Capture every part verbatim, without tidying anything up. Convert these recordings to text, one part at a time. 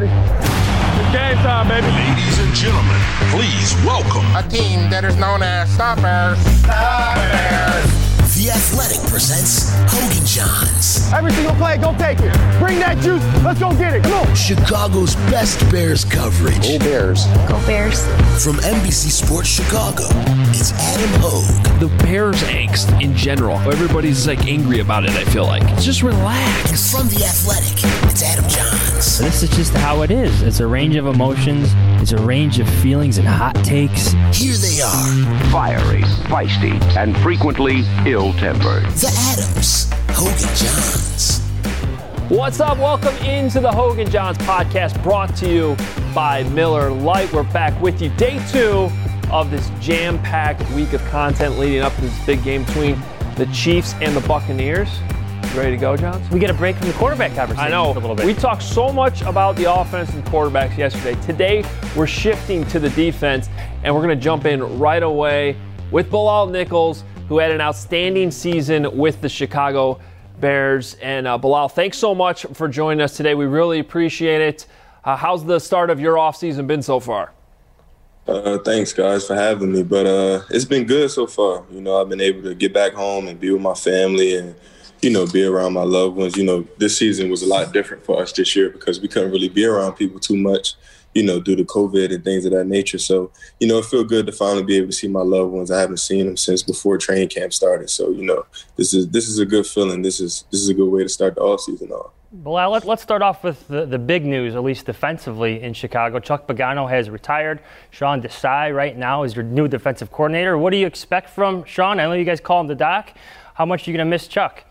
ready. It's game time, baby. Ladies and gentlemen, please welcome a team that is known as Stoppers. Stoppers. The Athletic presents Hogan Johns. Every single play, go take it. Bring that juice. Let's go get it. Come on. Chicago's best Bears coverage. Go Bears. Go Bears. From N B C Sports Chicago, it's Adam Hogue. The Bears angst in general. Everybody's like angry about it, I feel like. Just relax. And from The Athletic, it's Adam Johns. This is just how it is. It's a range of emotions. It's a range of feelings and hot takes. Here they are. Fiery, feisty, and frequently ill-tempered. The Adams. Hogan Johns. What's up? Welcome into the Hogan Johns podcast, brought to you by Miller Lite. We're back with you. Day two of this jam-packed week of content leading up to this big game between the Chiefs and the Buccaneers. Ready to go, Johns? We get a break from the quarterback conversation. I know. A little bit. We talked so much about the offense and quarterbacks yesterday. Today, we're shifting to the defense, and we're going to jump in right away with Bilal Nichols, who had an outstanding season with the Chicago Bears. And uh, Bilal, thanks so much for joining us today. We really appreciate it. Uh, how's the start of your offseason been so far? Uh, thanks, guys, for having me. But uh, it's been good so far. You know, I've been able to get back home and be with my family and, you know, be around my loved ones. You know, this season was a lot different for us this year because we couldn't really be around people too much, you know, due to COVID and things of that nature. So, you know, it feels good to finally be able to see my loved ones. I haven't seen them since before training camp started. So, you know, this is this is a good feeling. This is this is a good way to start the offseason off. Well, let, let's start off with the, the big news, at least defensively in Chicago. Chuck Pagano has retired. Sean Desai right now is your new defensive coordinator. What do you expect from Sean? I know you guys call him the Doc. How much are you going to miss Chuck?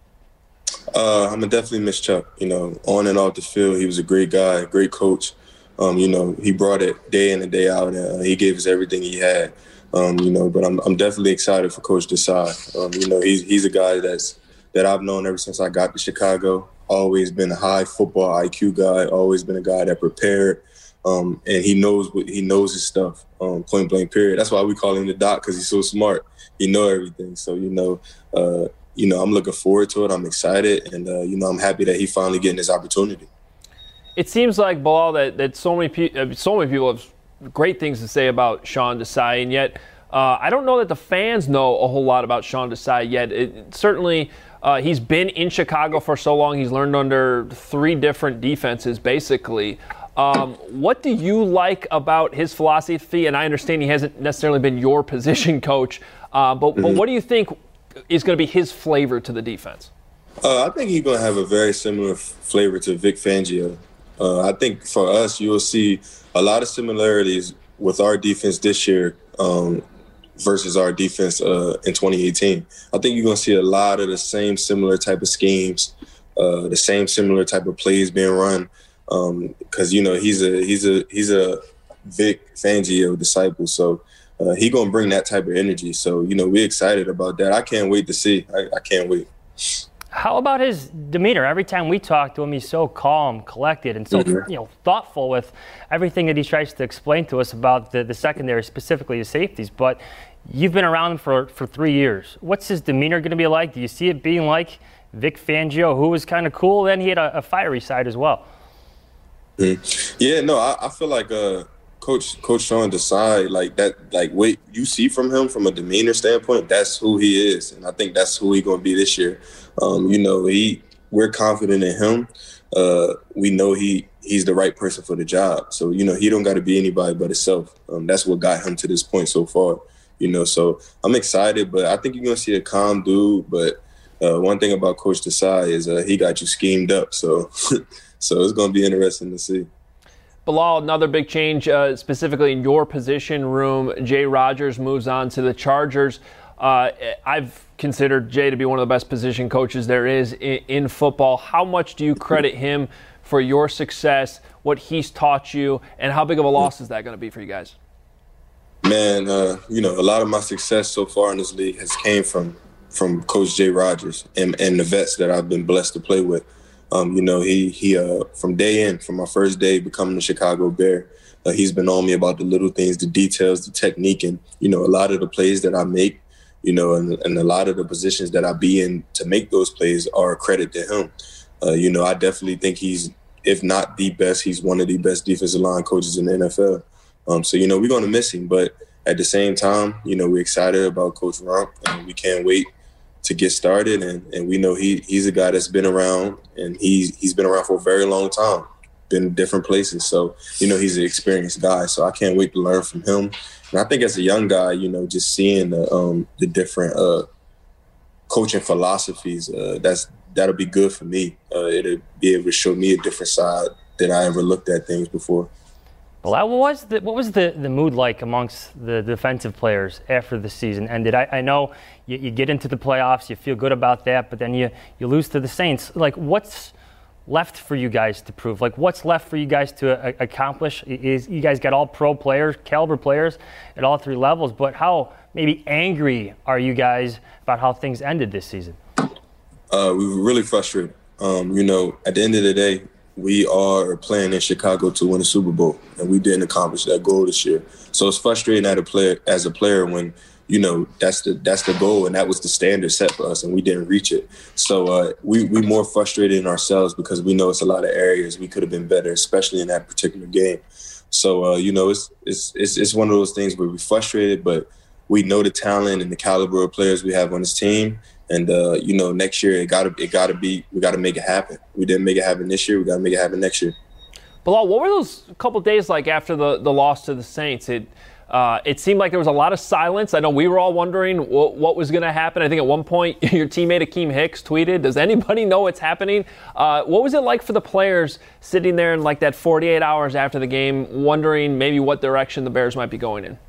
Uh, I'm going to definitely miss Chuck. You know, on and off the field, he was a great guy, a great coach. Um, you know, he brought it day in and day out, and uh, he gave us everything he had. Um, you know, but I'm I'm definitely excited for Coach Desai. Um, you know, he's he's a guy that's that I've known ever since I got to Chicago. Always been a high football I Q guy. Always been a guy that prepared, um, and he knows what he knows his stuff. Um, point blank. Period. That's why we call him the Doc, because he's so smart. He know everything. So you know, uh, you know, I'm looking forward to it. I'm excited, and uh, you know, I'm happy that he finally getting this opportunity. It seems like, Bilal, that, that so many pe- so many people have great things to say about Sean Desai, and yet uh, I don't know that the fans know a whole lot about Sean Desai yet. It, certainly, uh, he's been in Chicago for so long. He's learned under three different defenses, basically. Um, what do you like about his philosophy? And I understand he hasn't necessarily been your position coach, uh, but, mm-hmm. but what do you think is going to be his flavor to the defense? Uh, I think he's going to have a very similar f- flavor to Vic Fangio. Uh, I think for us, you'll see a lot of similarities with our defense this year um, versus our defense uh, in twenty eighteen. I think you're going to see a lot of the same similar type of schemes, uh, the same similar type of plays being run. Because um, you know he's a he's a he's a Vic Fangio disciple, so uh, he gonna bring that type of energy. So you know we're excited about that. I can't wait to see. I, I can't wait. How about his demeanor? Every time we talk to him, he's so calm, collected, and so mm-hmm. you know thoughtful with everything that he tries to explain to us about the, the secondary, specifically the safeties. But you've been around him for, for three years. What's his demeanor going to be like? Do you see it being like Vic Fangio, who was kind of cool, then he had a, a fiery side as well? Mm-hmm. Yeah, no, I, I feel like uh, Coach Coach Sean Desai, like that, like what you see from him from a demeanor standpoint, that's who he is, and I think that's who he's going to be this year. Um, you know, he we're confident in him. Uh, we know he he's the right person for the job. So you know, he don't got to be anybody but himself. Um, that's what got him to this point so far. You know, so I'm excited, but I think you're going to see a calm dude. But uh, one thing about Coach Desai is uh, he got you schemed up. So. So it's going to be interesting to see. Bilal, another big change, uh, specifically in your position room. Jay Rodgers moves on to the Chargers. Uh, I've considered Jay to be one of the best position coaches there is in, in football. How much do you credit him for your success, what he's taught you, and how big of a loss is that going to be for you guys? Man, uh, you know, a lot of my success so far in this league has came from from Coach Jay Rodgers and, and the vets that I've been blessed to play with. Um, you know, he he uh, from day in, from my first day becoming a Chicago Bear, uh, he's been on me about the little things, the details, the technique, and, you know, a lot of the plays that I make, you know, and, and a lot of the positions that I be in to make those plays are a credit to him. Uh, you know, I definitely think he's if not the best, he's one of the best defensive line coaches in the N F L. Um, so, you know, we're going to miss him. But at the same time, you know, we're excited about Coach Rumph, and we can't wait to get started. And, and we know he he's a guy that's been around, and he's, he's been around for a very long time, been in different places. So, you know, he's an experienced guy. So I can't wait to learn from him. And I think as a young guy, you know, just seeing the, um, the different uh, coaching philosophies, uh, that's that'll be good for me. Uh, it'll be able to show me a different side than I ever looked at things before. Well, what was the what was the, the mood like amongst the defensive players after the season ended? I, I know you, you get into the playoffs, you feel good about that, but then you, you lose to the Saints. Like, what's left for you guys to prove? Like, what's left for you guys to a, accomplish? Is you guys got all pro players, caliber players at all three levels, but how maybe angry are you guys about how things ended this season? Uh, we were really frustrated. Um, you know, at the end of the day, we are playing in Chicago to win a Super Bowl, and we didn't accomplish that goal this year. So it's frustrating as a player, as a player when, you know, that's the that's the goal, and that was the standard set for us, and we didn't reach it. So uh, we we more frustrated in ourselves because we know it's a lot of areas we could have been better, especially in that particular game. So uh, you know, it's it's it's it's one of those things where we're frustrated, but we know the talent and the caliber of players we have on this team. And, uh, you know, next year it gotta it gotta be we gotta make it happen. We didn't make it happen this year. We gotta make it happen next year. Bilal, what were those couple days like after the, the loss to the Saints? It uh, it seemed like there was a lot of silence. I know we were all wondering what, what was going to happen. I think at one point your teammate Akeem Hicks tweeted, "Does anybody know what's happening?" Uh, what was it like for the players sitting there in like that forty-eight hours after the game, wondering maybe what direction the Bears might be going in?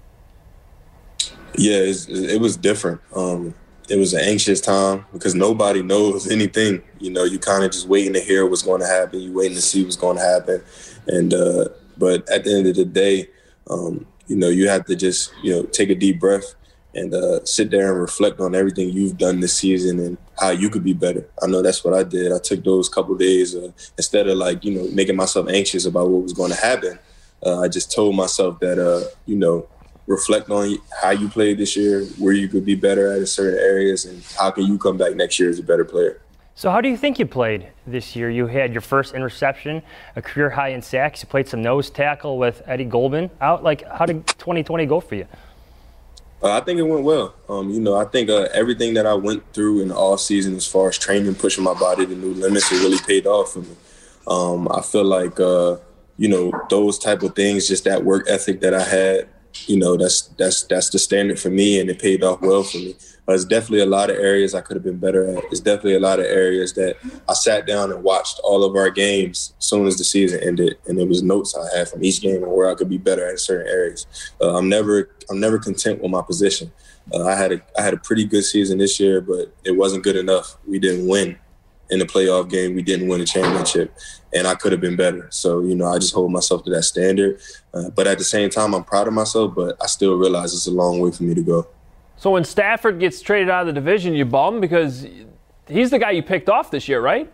Yeah, it's, it was different. Um, It was an anxious time because nobody knows anything. You know, you kind of just waiting to hear what's going to happen. You waiting to see what's going to happen. And uh, but at the end of the day, um, you know, you have to just, you know, take a deep breath and uh, sit there and reflect on everything you've done this season and how you could be better. I know that's what I did. I took those couple of days uh, instead of like, you know, making myself anxious about what was going to happen. Uh, I just told myself that, uh, you know, reflect on how you played this year, where you could be better at in certain areas, and how can you come back next year as a better player. So how do you think you played this year? You had your first interception, a career high in sacks. You played some nose tackle with Eddie Goldman out. Like, how did twenty twenty go for you? Uh, I think it went well. Um, you know, I think uh, everything that I went through in the off season as far as training, pushing my body to new limits, it really paid off for me. Um, I feel like, uh, you know, those type of things, just that work ethic that I had, you know, that's that's that's the standard for me, and it paid off well for me. But there's definitely a lot of areas I could have been better at. There's definitely a lot of areas that I sat down and watched all of our games as soon as the season ended, and there was notes I had from each game and where I could be better at certain areas. Uh, I'm never I'm never content with my position. Uh, I had a I had a pretty good season this year, but it wasn't good enough. We didn't win in the playoff game. We didn't win a championship, and I could have been better. So, you know, I just hold myself to that standard. Uh, but at the same time, I'm proud of myself, but I still realize it's a long way for me to go. So when Stafford gets traded out of the division, you bum because he's the guy you picked off this year, right?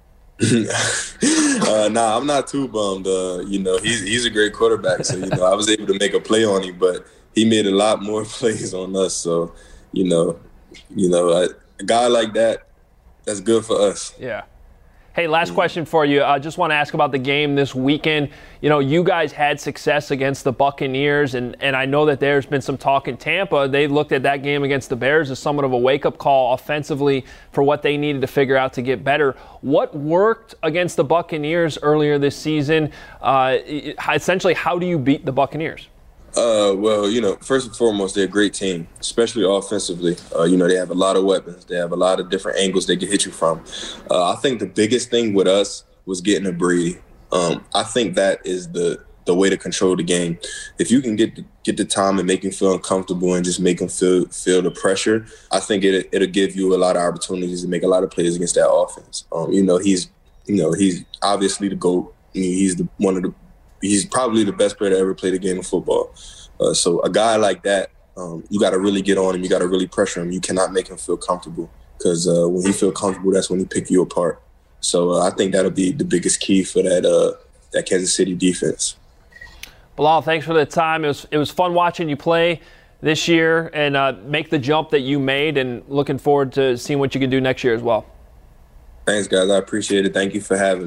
uh, nah, I'm not too bummed. Uh, you know, he's he's a great quarterback, so, you know, I was able to make a play on him, but he made a lot more plays on us. So, you know, you know, a, a guy like that, that's good for us. Yeah. Hey, last question for you. I uh, just want to ask about the game this weekend. You know, you guys had success against the Buccaneers, and, and I know that there's been some talk in Tampa. They looked at that game against the Bears as somewhat of a wake-up call offensively for what they needed to figure out to get better. What worked against the Buccaneers earlier this season? Uh, essentially, how do you beat the Buccaneers? Uh, well, you know, first and foremost, they're a great team, especially offensively. Uh, you know, they have a lot of weapons. They have a lot of different angles they can hit you from. Uh, I think the biggest thing with us was getting a Brady. Um, I think that is the the way to control the game. If you can get the, get the time and make him feel uncomfortable and just make him feel feel the pressure, I think it it'll give you a lot of opportunities to make a lot of plays against that offense. Um, you know, he's you know he's obviously the GOAT. I mean, he's the one of the He's probably the best player to ever play the game of football. Uh, so a guy like that, um, you got to really get on him. You got to really pressure him. You cannot make him feel comfortable because uh, when he feel comfortable, that's when he pick you apart. So uh, I think that'll be the biggest key for that uh, that Kansas City defense. Bilal, thanks for the time. It was it was fun watching you play this year and uh, make the jump that you made, and looking forward to seeing what you can do next year as well. Thanks, guys. I appreciate it. Thank you for having me.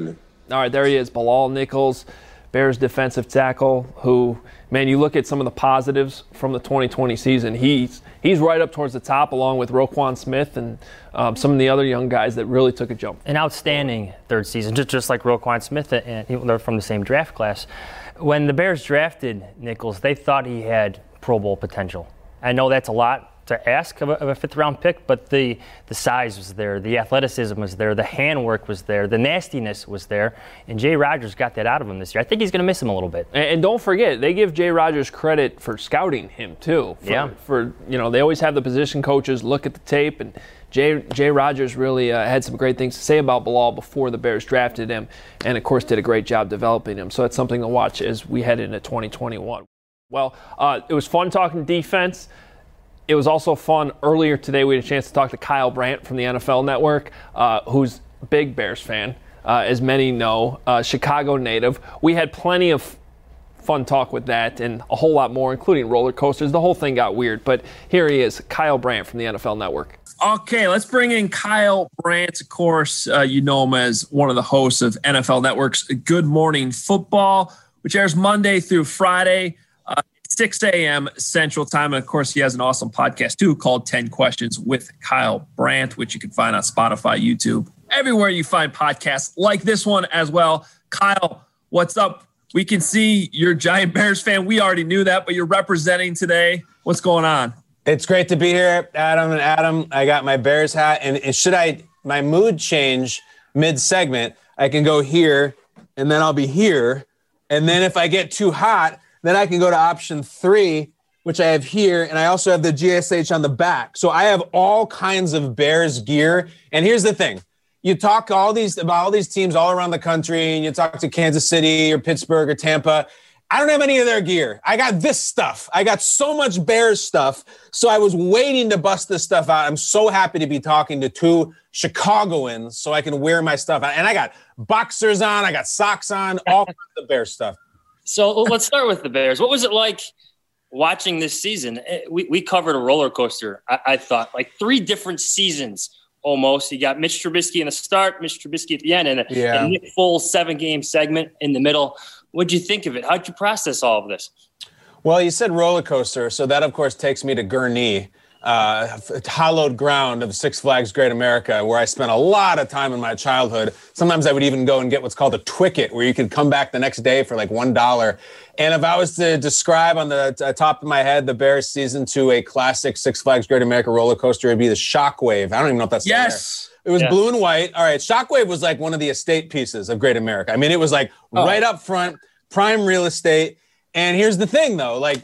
All right, there he is, Bilal Nichols, Bears defensive tackle, who, man, you look at some of the positives from the twenty twenty season. He's he's right up towards the top, along with Roquan Smith and um, some of the other young guys that really took a jump. An outstanding third season, just, just like Roquan Smith, and they're from the same draft class. When the Bears drafted Nichols, they thought he had Pro Bowl potential. I know that's a lot to ask of a, of a fifth-round pick, but the the size was there, the athleticism was there, the handwork was there, the nastiness was there, and Jay Rodgers got that out of him this year. I think he's going to miss him a little bit. And, and don't forget, they give Jay Rodgers credit for scouting him too. For, yeah. For you know, they always have the position coaches look at the tape, and Jay Jay Rodgers really uh, had some great things to say about Bilal before the Bears drafted him, and of course did a great job developing him. So that's something to watch as we head into twenty twenty-one. Well, uh, it was fun talking defense. It was also fun earlier today. We had a chance to talk to Kyle Brandt from the N F L Network, uh, who's a big Bears fan, uh, as many know, uh, Chicago native. We had plenty of fun talk with that and a whole lot more, including roller coasters. The whole thing got weird, but here he is, Kyle Brandt from the N F L Network. Okay, let's bring in Kyle Brandt. Of course, uh, you know him as one of the hosts of N F L Network's Good Morning Football, which airs Monday through Friday. Uh, six a.m. Central Time. And, of course, he has an awesome podcast, too, called ten Questions with Kyle Brandt, which you can find on Spotify, YouTube, everywhere you find podcasts like this one as well. Kyle, what's up? We can see you're a giant Bears fan. We already knew that, but you're representing today. What's going on? It's great to be here, Adam and Adam. I got my Bears hat. And should I my mood change mid-segment, I can go here, and then I'll be here. And then if I get too hot, then I can go to option three, which I have here, and I also have the G S H on the back. So I have all kinds of Bears gear. And here's the thing. You talk all these about all these teams all around the country, and you talk to Kansas City or Pittsburgh or Tampa. I don't have any of their gear. I got this stuff. I got so much Bears stuff. So I was waiting to bust this stuff out. I'm so happy to be talking to two Chicagoans so I can wear my stuff out. And I got boxers on. I got socks on, all kinds of Bears stuff. So let's start with the Bears. What was it like watching this season? We we covered a roller coaster, I, I thought, like three different seasons almost. You got Mitch Trubisky in the start, Mitch Trubisky at the end, and a, yeah. a Nick Foles seven-game segment in the middle. What'd you think of it? How'd you process all of this? Well, you said roller coaster, so that, of course, takes me to Gurnee, uh, hallowed ground of Six Flags Great America, where I spent a lot of time in my childhood. Sometimes I would even go and get what's called a Twicket, where you could come back the next day for like one dollar. And if I was to describe on the t- top of my head the Bears season to a classic Six Flags Great America roller coaster, it'd be the Shockwave. I don't even know if that's yes. There. It was yeah. blue and white. All right, Shockwave was like one of the estate pieces of Great America. I mean, it was like oh. right up front, prime real estate. And here's the thing, though, like,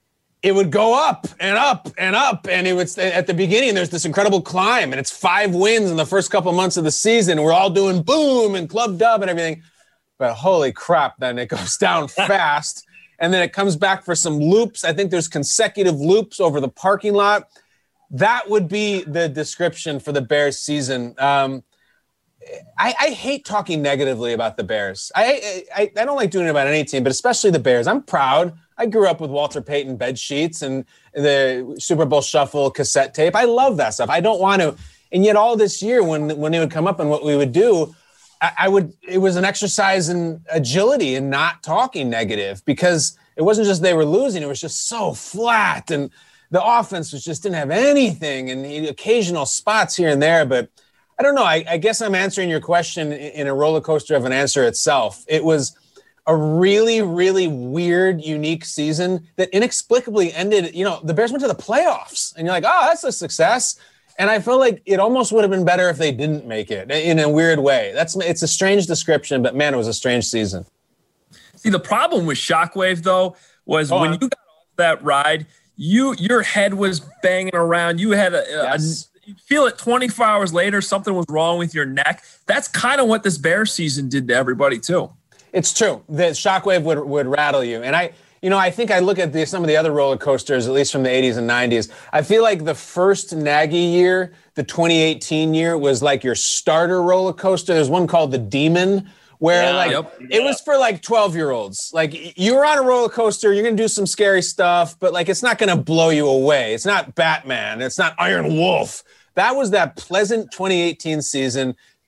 it would go up and up and up. And it would, at the beginning, there's this incredible climb, and it's five wins in the first couple months of the season. We're all doing boom and club dub and everything. But holy crap, then it goes down fast. And then it comes back for some loops. I think there's consecutive loops over the parking lot. That would be the description for the Bears season. Um, I, I hate talking negatively about the Bears. I, I I don't like doing it about any team, but especially the Bears. I'm proud. I grew up with Walter Payton bed sheets and the Super Bowl Shuffle cassette tape. I love that stuff. I don't want to. And yet all this year when, when it would come up and what we would do, I, I would, it was an exercise in agility and not talking negative, because it wasn't just they were losing. It was just so flat. And the offense was just didn't have anything, and the occasional spots here and there. But I don't know. I, I guess I'm answering your question in a roller coaster of an answer itself. It was a really, really weird, unique season that inexplicably ended. You know, the Bears went to the playoffs, and you're like, oh, that's a success. And I feel like it almost would have been better if they didn't make it in a weird way. That's it's a strange description, but man, it was a strange season. See, the problem with Shockwave, though, was oh, when you got off that ride, you your head was banging around. You had a, yes. a you feel it twenty-four hours later, something was wrong with your neck. That's kind of what this Bears season did to everybody, too. It's true. The Shockwave would, would rattle you. And I, you know, I think I look at the, some of the other roller coasters, at least from the eighties and nineties. I feel like the first Nagy year, the twenty eighteen year, was like your starter roller coaster. There's one called the Demon, where yeah, like yep. it was for like twelve-year-olds. Like you were on a roller coaster, you're going to do some scary stuff, but like it's not going to blow you away. It's not Batman. It's not Iron Wolf. That was that pleasant twenty eighteen season.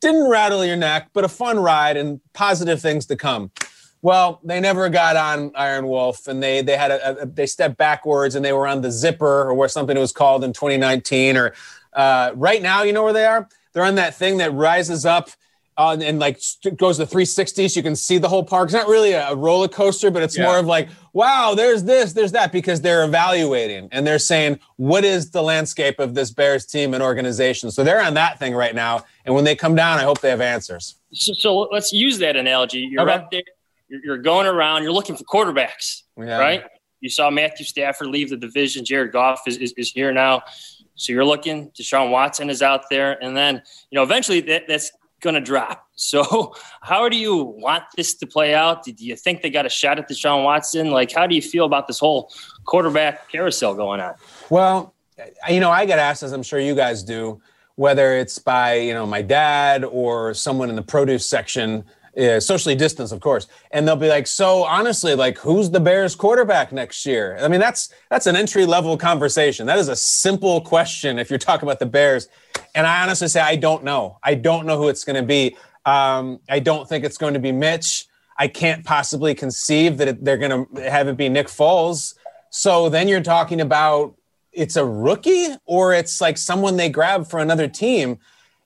didn't rattle your neck, but a fun ride and positive things to come. Well, they never got on Iron Wolf, and they they had a, a they stepped backwards, and they were on the Zipper, or where something was called in twenty nineteen. Or uh, right now, you know where they are? They're on that thing that rises up uh, and like goes to three sixty, so you can see the whole park. It's not really a, a roller coaster, but it's yeah. more of like, wow, there's this, there's that, because they're evaluating and they're saying, what is the landscape of this Bears team and organization? So they're on that thing right now, and when they come down, I hope they have answers. So, so let's use that analogy. You're okay. up there. You're going around, you're looking for quarterbacks, yeah. right? You saw Matthew Stafford leave the division. Jared Goff is, is, is here now. So you're looking, Deshaun Watson is out there. And then, you know, eventually that, that's going to drop. So how do you want this to play out? Do you think they got a shot at Deshaun Watson? Like, how do you feel about this whole quarterback carousel going on? Well, you know, I get asked, as I'm sure you guys do, whether it's by, you know, my dad or someone in the produce section, Yeah, socially distanced, of course. And they'll be like, so honestly, like, who's the Bears quarterback next year? I mean, that's that's an entry-level conversation. That is a simple question if you're talking about the Bears. And I honestly say, I don't know. I don't know who it's going to be. Um, I don't think it's going to be Mitch. I can't possibly conceive that it, they're going to have it be Nick Foles. So then you're talking about it's a rookie, or it's like someone they grab for another team.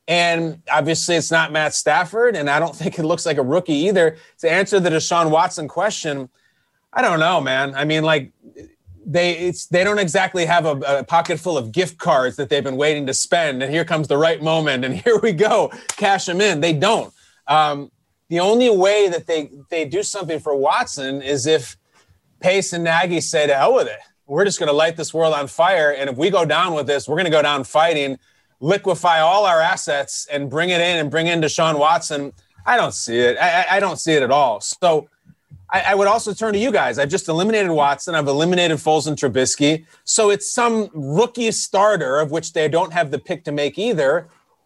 And obviously it's not Matt Stafford, and I don't think it looks like a rookie either. To answer the Deshaun Watson question, I don't know, man. I mean, like, they it's they don't exactly have a, a pocket full of gift cards that they've been waiting to spend, and here comes the right moment, and here we go, cash them in. They don't. Um, the only way that they, they do something for Watson is if Pace and Nagy say, to hell with it. We're just going to light this world on fire, and if we go down with this, we're going to go down fighting, liquefy all our assets and bring it in and bring in Deshaun Watson. I don't see it. I, I don't see it at all. So I, I would also turn to you guys. I've just eliminated Watson. I've eliminated Foles and Trubisky. So it's some rookie starter, of which they don't have the pick to make either,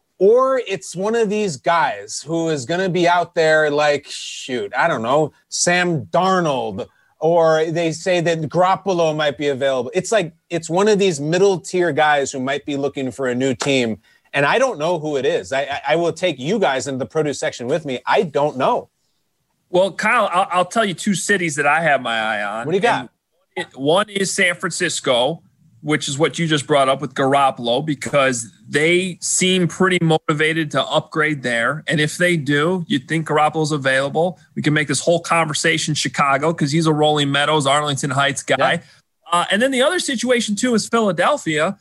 or it's one of these guys who is going to be out there like, shoot, I don't know, Sam Darnold, or they say that Garoppolo might be available. It's like it's one of these middle-tier guys who might be looking for a new team, and I don't know who it is. I, I will take you guys into the produce section with me. I don't know. Well, Kyle, I'll, I'll tell you two cities that I have my eye on. What do you got? And one is San Francisco, which is what you just brought up with Garoppolo, because they seem pretty motivated to upgrade there. And if they do, you'd think Garoppolo's available. We can make this whole conversation Chicago, because he's a Rolling Meadows, Arlington Heights guy. Yeah. Uh, and then the other situation, too, is Philadelphia,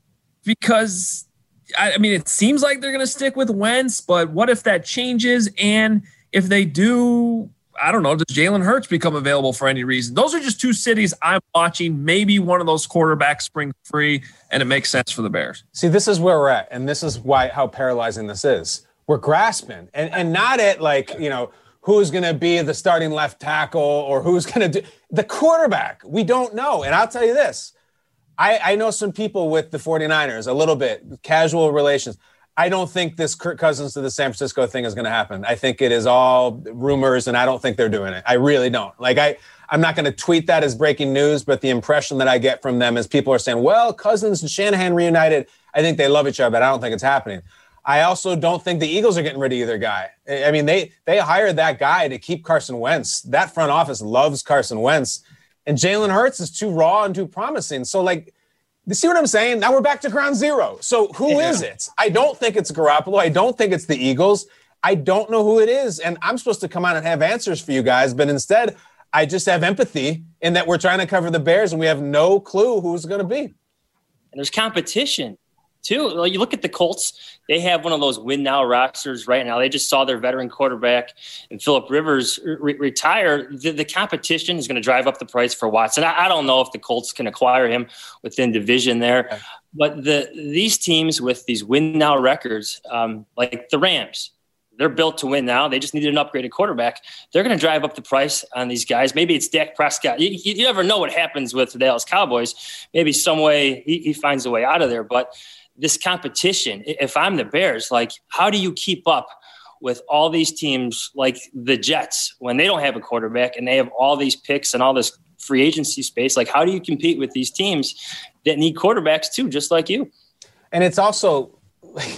because, I, I mean, it seems like they're going to stick with Wentz, but what if that changes? And if they do, I don't know, does Jalen Hurts become available for any reason? Those are just two cities I'm watching. Maybe one of those quarterbacks spring free, and it makes sense for the Bears. See, this is where we're at, and this is why how paralyzing this is. We're grasping, and, and not at, like, you know, who's going to be the starting left tackle or who's going to do – the quarterback. We don't know. And I'll tell you this. I, I know some people with the 49ers, a little bit, casual relations. I don't think this Kirk Cousins to the San Francisco thing is going to happen. I think it is all rumors, and I don't think they're doing it. I really don't. Like, I, I'm not going to tweet that as breaking news, but the impression that I get from them is people are saying, well, Cousins and Shanahan reunited. I think they love each other, but I don't think it's happening. I also don't think the Eagles are getting rid of either guy. I mean, they they hired that guy to keep Carson Wentz. That front office loves Carson Wentz. And Jalen Hurts is too raw and too promising. So, like, you see what I'm saying? Now we're back to ground zero. So who yeah. is it? I don't think it's Garoppolo. I don't think it's the Eagles. I don't know who it is. And I'm supposed to come out and have answers for you guys. But instead, I just have empathy in that we're trying to cover the Bears and we have no clue who's going to be. And there's competition, too. Well, you look at the Colts. They have one of those win-now rosters right now. They just saw their veteran quarterback and Phillip Rivers re- retire. The, the competition is going to drive up the price for Watson. I, I don't know if the Colts can acquire him within division there. Okay. But the these teams with these win-now records, um, like the Rams, they're built to win now. They just needed an upgraded quarterback. They're going to drive up the price on these guys. Maybe it's Dak Prescott. You, you never know what happens with the Dallas Cowboys. Maybe some way he, he finds a way out of there. But this competition, if I'm the Bears, like, how do you keep up with all these teams like the Jets when they don't have a quarterback and they have all these picks and all this free agency space? Like, how do you compete with these teams that need quarterbacks too, just like you? And it's also, like,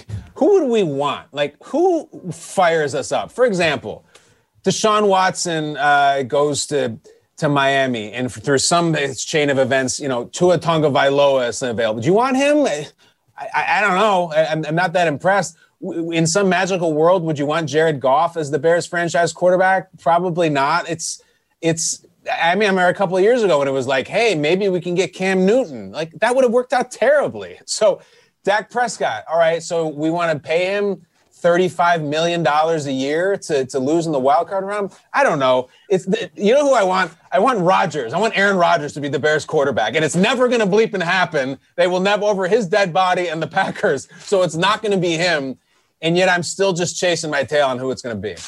who would we want? Like, who fires us up? For example, Deshaun Watson uh, goes to to Miami, and through some chain of events, you know, Tua Tagovailoa is available. Do you want him? I, I, I don't know. I, I'm, I'm not that impressed. In some magical world, would you want Jared Goff as the Bears franchise quarterback? Probably not. It's, it's. I mean, I remember a couple of years ago when it was like, hey, maybe we can get Cam Newton. Like, that would have worked out terribly. So, Dak Prescott, all right, so we want to pay him thirty-five million dollars a year to, to lose in the wild card round? I don't know. It's the, you know who I want? I want Rodgers. I want Aaron Rodgers to be the Bears quarterback, and it's never going to bleep and happen. They will never over his dead body and the Packers, so it's not going to be him. And yet I'm still just chasing my tail on who it's going to be.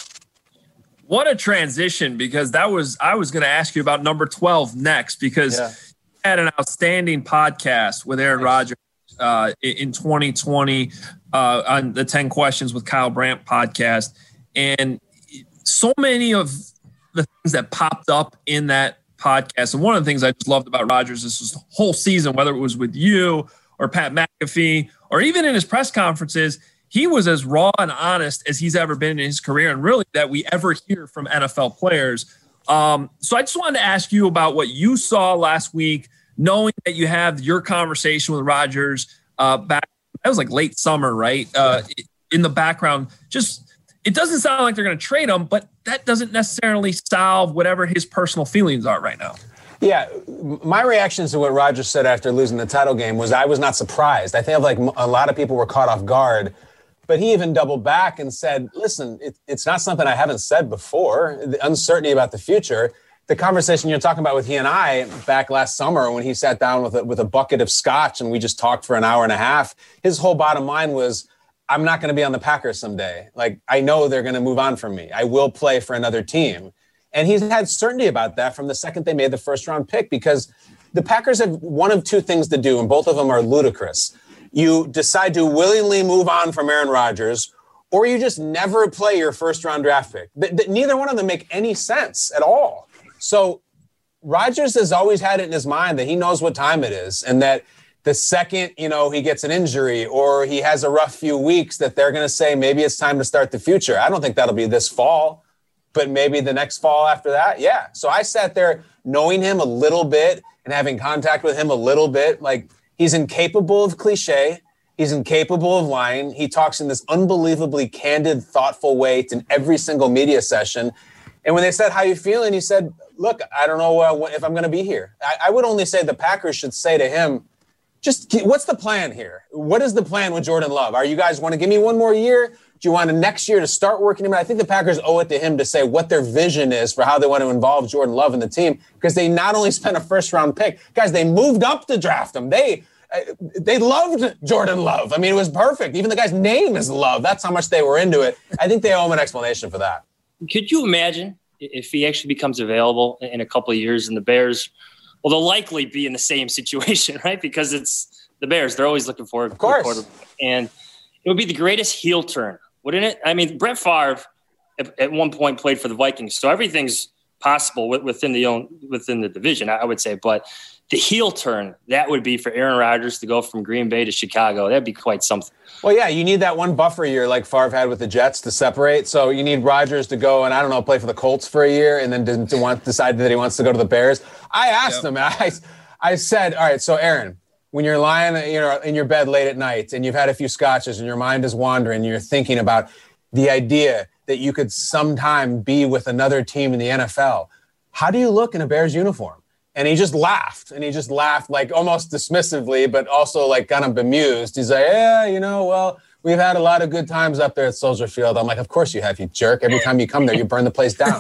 What a transition, because that was I was going to ask you about number twelve next, because yeah. you had an outstanding podcast with Aaron Rodgers uh, in twenty twenty uh, on the ten Questions with Kyle Brandt podcast. And so many of the things that popped up in that podcast, and one of the things I just loved about Rodgers this was the whole season, whether it was with you or Pat McAfee or even in his press conferences, he was as raw and honest as he's ever been in his career, and really that we ever hear from N F L players. Um, so I just wanted to ask you about what you saw last week, knowing that you have your conversation with Rodgers uh, back. That was like late summer, right? Uh, in the background, just it doesn't sound like they're going to trade him, but that doesn't necessarily solve whatever his personal feelings are right now. Yeah, my reaction to what Rodgers said after losing the title game was I was not surprised. I think like a lot of people were caught off guard. But he even doubled back and said, listen, it, it's not something I haven't said before, the uncertainty about the future. The conversation you're talking about with he and I back last summer when he sat down with a, with a bucket of scotch and we just talked for an hour and a half, his whole bottom line was, I'm not going to be on the Packers someday. Like, I know they're going to move on from me. I will play for another team. And he's had certainty about that from the second they made the first round pick, because the Packers have one of two things to do, and both of them are ludicrous. You decide to willingly move on from Aaron Rodgers, or you just never play your first-round draft pick. Th- th- neither one of them make any sense at all. So Rodgers has always had it in his mind that he knows what time it is, and that the second, you know, he gets an injury or he has a rough few weeks, that they're going to say maybe it's time to start the future. I don't think that'll be this fall, but maybe the next fall after that. Yeah. So I sat there knowing him a little bit and having contact with him a little bit, like, he's incapable of cliche. He's incapable of lying. He talks in this unbelievably candid, thoughtful way in every single media session. And when they said, how you feeling? He said, look, I don't know uh, if I'm going to be here. I, I would only say the Packers should say to him, just what's the plan here? What is the plan with Jordan Love? Are you guys want to give me one more year? Do you want to next year to start working him? I think the Packers owe it to him to say what their vision is for how they want to involve Jordan Love in the team, because they not only spent a first-round pick, guys, they moved up to draft him. They they loved Jordan Love. I mean, it was perfect. Even the guy's name is Love. That's how much they were into it. I think they owe him an explanation for that. Could you imagine if he actually becomes available in a couple of years and the Bears, well, they'll likely be in the same situation, right? Because it's the Bears. They're always looking for a quarterback. And it would be the greatest heel turn, wouldn't it? I mean, Brett Favre at, at one point played for the Vikings, so everything's possible within the own within the division, I would say. But the heel turn, that would be for Aaron Rodgers to go from Green Bay to Chicago. That'd be quite something. Well, yeah, you need that one buffer year like Favre had with the Jets to separate. So you need Rodgers to go and, I don't know, play for the Colts for a year and then to, to want, decide that he wants to go to the Bears. I asked yep. him, I, I said, all right, so Aaron, when you're lying you know, in your bed late at night and you've had a few scotches and your mind is wandering and you're thinking about the idea that you could sometime be with another team in the N F L, how do you look in a Bears uniform? And he just laughed, and he just laughed like almost dismissively, but also like kind of bemused. He's like, yeah, you know, well, we've had a lot of good times up there at Soldier Field. I'm like, of course you have, you jerk. Every time you come there, you burn the place down.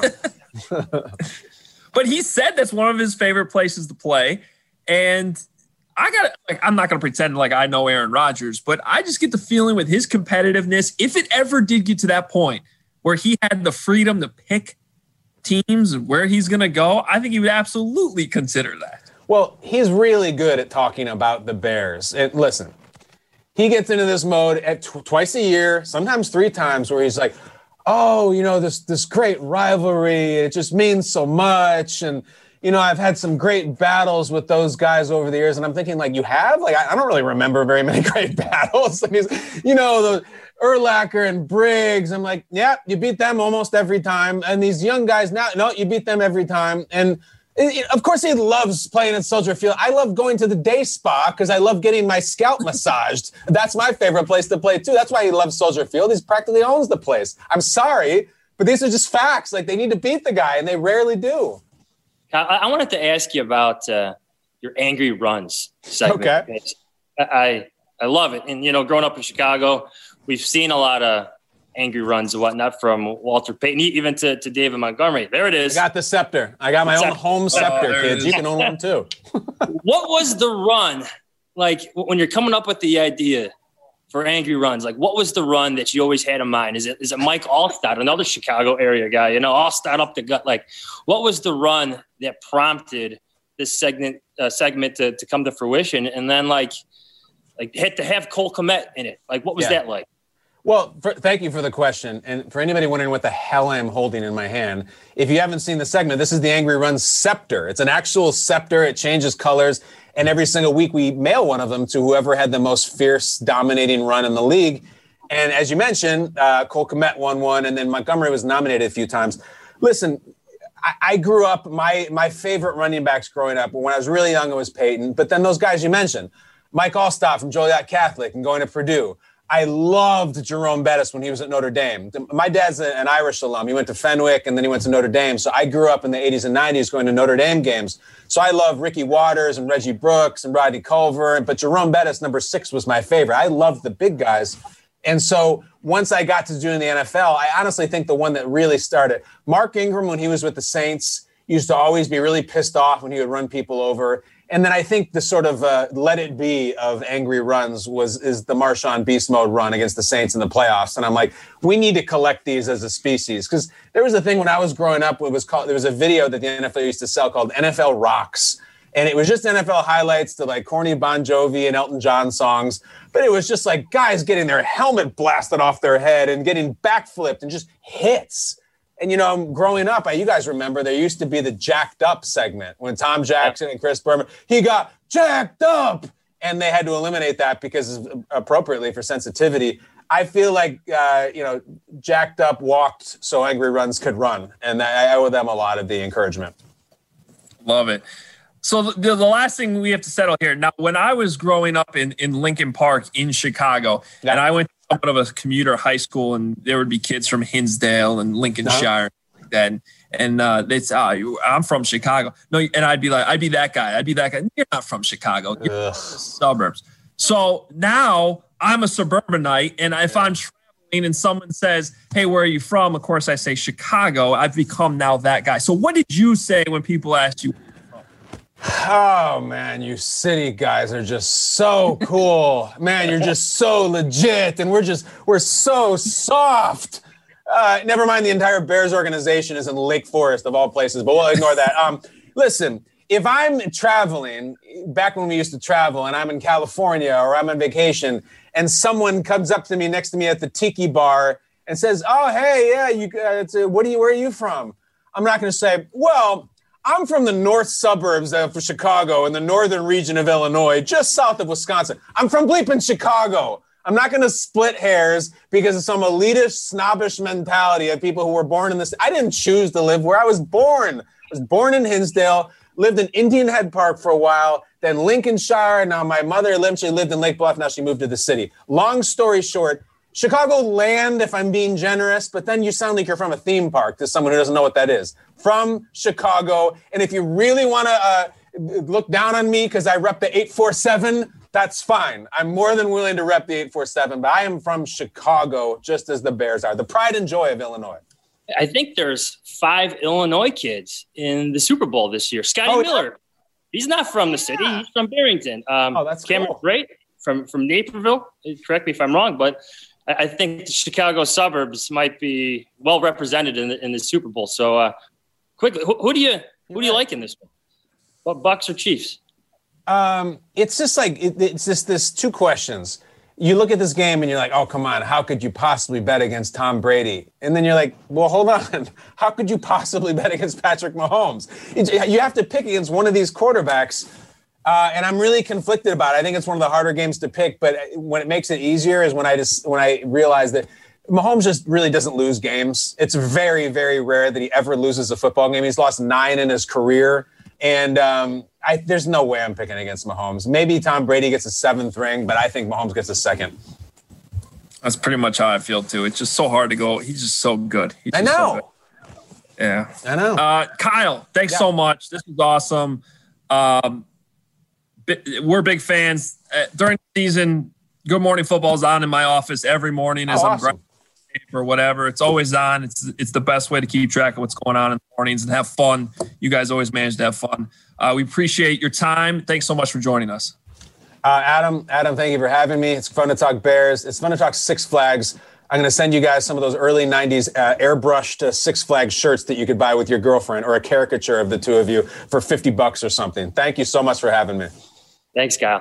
But he said that's one of his favorite places to play. And I got like, I'm not going to pretend like I know Aaron Rodgers, but I just get the feeling with his competitiveness, if it ever did get to that point where he had the freedom to pick teams and where he's going to go, I think he would absolutely consider that. Well, he's really good at talking about the Bears. And listen, he gets into this mode at tw- twice a year, sometimes three times, where he's like, oh, you know, this this great rivalry, it just means so much. And, you know, I've had some great battles with those guys over the years. And I'm thinking, like, you have? Like, I, I don't really remember very many great battles. I mean, you know, the, Urlacher and Briggs. I'm like, yeah, you beat them almost every time. And these young guys now, no, you beat them every time. And it, of course, he loves playing at Soldier Field. I love going to the day spa because I love getting my scalp massaged. That's my favorite place to play, too. That's why he loves Soldier Field. He practically owns the place. I'm sorry, but these are just facts. Like, they need to beat the guy, and they rarely do. I, I wanted to ask you about uh, your angry runs segment. Okay. I, I love it. And, you know, growing up in Chicago, we've seen a lot of angry runs and whatnot from Walter Payton, even to, to David Montgomery. There it is. I got the scepter. I got my own home scepter, oh, kids. You can own one too. What was the run like when you're coming up with the idea for angry runs? Like, what was the run that you always had in mind? Is it is it Mike Alstott, another Chicago area guy? You know, Alstott up the gut. Like, what was the run that prompted this segment uh, segment to, to come to fruition? And then like like had to have Cole Kmet in it. Like, what was Yeah. that like? Well, for, thank you for the question. And for anybody wondering what the hell I'm holding in my hand, if you haven't seen the segment, this is the Angry Run scepter. It's an actual scepter. It changes colors. And every single week we mail one of them to whoever had the most fierce, dominating run in the league. And as you mentioned, uh, Cole Kmet won one, and then Montgomery was nominated a few times. Listen, I, I grew up, my, my favorite running backs growing up, when I was really young, it was Peyton. But then those guys you mentioned, Mike Alstott from Joliet Catholic and going to Purdue. I loved Jerome Bettis when he was at Notre Dame. My dad's an Irish alum. He went to Fenwick, and then he went to Notre Dame. So I grew up in the eighties and nineties going to Notre Dame games. So I love Ricky Waters and Reggie Brooks and Rodney Culver. But Jerome Bettis, number six, was my favorite. I loved the big guys. And so once I got to doing the N F L, I honestly think the one that really started, Mark Ingram, when he was with the Saints, used to always be really pissed off when he would run people over. And then I think the sort of uh, let it be of angry runs was is the Marshawn Beast Mode run against the Saints in the playoffs. And I'm like, we need to collect these as a species. Because there was a thing when I was growing up, it was called, there was a video that the N F L used to sell called N F L Rocks. And it was just N F L highlights to like corny Bon Jovi and Elton John songs. But it was just like guys getting their helmet blasted off their head and getting backflipped and just hits. And, you know, growing up, you guys remember there used to be the jacked up segment when Tom Jackson and Chris Berman, he got jacked up. And they had to eliminate that because appropriately for sensitivity. I feel like, uh, you know, jacked up walked so angry runs could run. And I owe them a lot of the encouragement. Love it. So the, the last thing we have to settle here. Now, when I was growing up in, in Lincoln Park in Chicago, yeah. and I went to somewhat of a commuter high school, and there would be kids from Hinsdale and Lincolnshire, no. like that. And, and uh, they'd say, oh, I'm from Chicago. No, and I'd be like, I'd be that guy. I'd be that guy. You're not from Chicago. You're from the suburbs. So now I'm a suburbanite, and if I'm traveling and someone says, hey, where are you from? Of course, I say Chicago. I've become now that guy. So what did you say when people asked you? Oh, man, you city guys are just so cool. Man, you're just so legit, and we're just, we're so soft. Uh, never mind, the entire Bears organization is in Lake Forest, of all places, but we'll ignore that. Um, listen, if I'm traveling, back when we used to travel, and I'm in California or I'm on vacation, and someone comes up to me next to me at the Tiki Bar and says, oh, hey, yeah, you, uh, it's, uh, what are you, where are you from? I'm not going to say, well, I'm from the north suburbs of Chicago in the northern region of Illinois, just south of Wisconsin. I'm from bleeping Chicago. I'm not going to split hairs because of some elitist, snobbish mentality of people who were born in this. I didn't choose to live where I was born. I was born in Hinsdale, lived in Indian Head Park for a while, then Lincolnshire. Now my mother lived, she lived in Lake Bluff. Now she moved to the city. Long story short, Chicago land, if I'm being generous, but then you sound like you're from a theme park to someone who doesn't know what that is. From Chicago. And if you really want to uh, look down on me because I rep the eight four seven, that's fine. I'm more than willing to rep the eight four seven, but I am from Chicago, just as the Bears are. The pride and joy of Illinois. I think there's five Illinois kids in the Super Bowl this year. Scotty oh, Miller, he's not from the city. He's from Barrington. Um, oh, that's Cameron cool. Brate from, from Naperville. Correct me if I'm wrong, but I think the Chicago suburbs might be well represented in the, in the Super Bowl. So, uh, quickly, who, who do you who do you like in this one? What, Bucks or Chiefs? Um, it's just like it, it's just this two questions. You look at this game and you're like, oh, come on, how could you possibly bet against Tom Brady? And then you're like, well, hold on, how could you possibly bet against Patrick Mahomes? It, you have to pick against one of these quarterbacks. Uh, and I'm really conflicted about it. I think it's one of the harder games to pick, but when it makes it easier is when I just when I realize that Mahomes just really doesn't lose games. It's very, very rare that he ever loses a football game. He's lost nine in his career, and um, I, there's no way I'm picking against Mahomes. Maybe Tom Brady gets a seventh ring, but I think Mahomes gets a second. That's pretty much how I feel, too. It's just so hard to go. He's just so good. He's I just know. So good. Yeah. I know. Uh, Kyle, thanks Yeah. so much. This was awesome. Um, we're big fans. Uh, during the season, Good Morning Football is on in my office every morning as Oh, I'm awesome. grinding or whatever. It's always on. It's it's the best way to keep track of what's going on in the mornings and have fun. You guys always manage to have fun. Uh, we appreciate your time. Thanks so much for joining us. Uh, Adam, Adam, thank you for having me. It's fun to talk Bears. It's fun to talk Six Flags. I'm going to send you guys some of those early nineties uh, airbrushed uh, Six Flags shirts that you could buy with your girlfriend, or a caricature of the two of you for fifty bucks or something. Thank you so much for having me. Thanks, Kyle.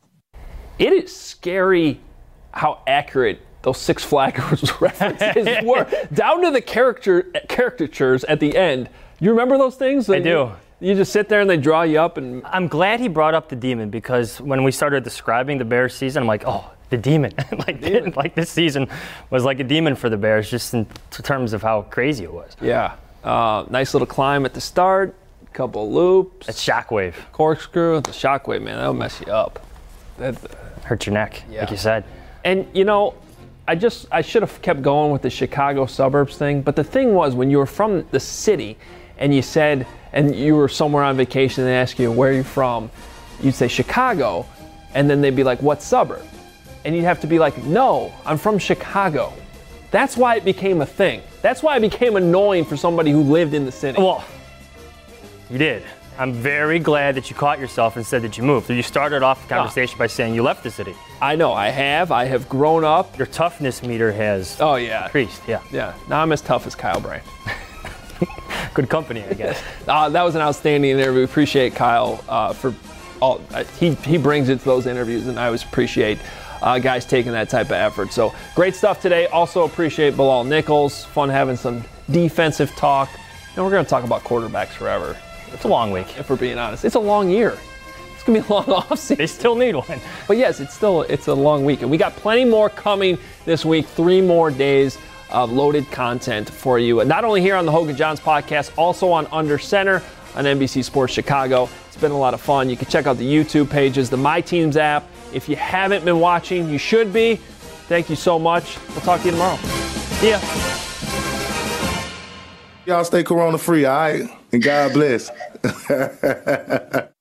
It is scary how accurate those Six Flags references were, down to the character caricatures at the end. You remember those things? I do. You just sit there and they draw you up. And I'm glad he brought up the demon, because when we started describing the Bears season, I'm like, oh, the demon. like, demon. like this season was like a demon for the Bears, just in terms of how crazy it was. Yeah. Uh, nice little climb at the start, couple loops. That shockwave. Corkscrew, the shockwave, man, that'll mess you up. That hurt your neck, yeah. like you said. And, you know, I just, I should have kept going with the Chicago suburbs thing. But the thing was, when you were from the city and you said, and you were somewhere on vacation and they ask you, where are you from? You'd say Chicago. And then they'd be like, what suburb? And you'd have to be like, no, I'm from Chicago. That's why it became a thing. That's why it became annoying for somebody who lived in the city. Well, you did. I'm very glad that you caught yourself and said that you moved. You started off the conversation by saying you left the city. I know, I have. I have grown up. Your toughness meter has oh, yeah. increased. Yeah. Yeah. Now I'm as tough as Kyle Brandt. Good company, I guess. uh, that was an outstanding interview. Appreciate Kyle uh, for all. Uh, he he brings it to those interviews, and I always appreciate uh, guys taking that type of effort. So great stuff today. Also appreciate Bilal Nichols. Fun having some defensive talk. And we're going to talk about quarterbacks forever. It's a long week. If we're being honest, it's a long year. It's gonna be a long offseason. They still need one. But yes, it's still it's a long week, and we got plenty more coming this week. Three more days of loaded content for you, and not only here on the Hogan Johns podcast, also on Under Center on N B C Sports Chicago. It's been a lot of fun. You can check out the YouTube pages, the My Teams app. If you haven't been watching, you should be. Thank you so much. We'll talk to you tomorrow. See ya. Y'all stay corona free, all right? And God bless.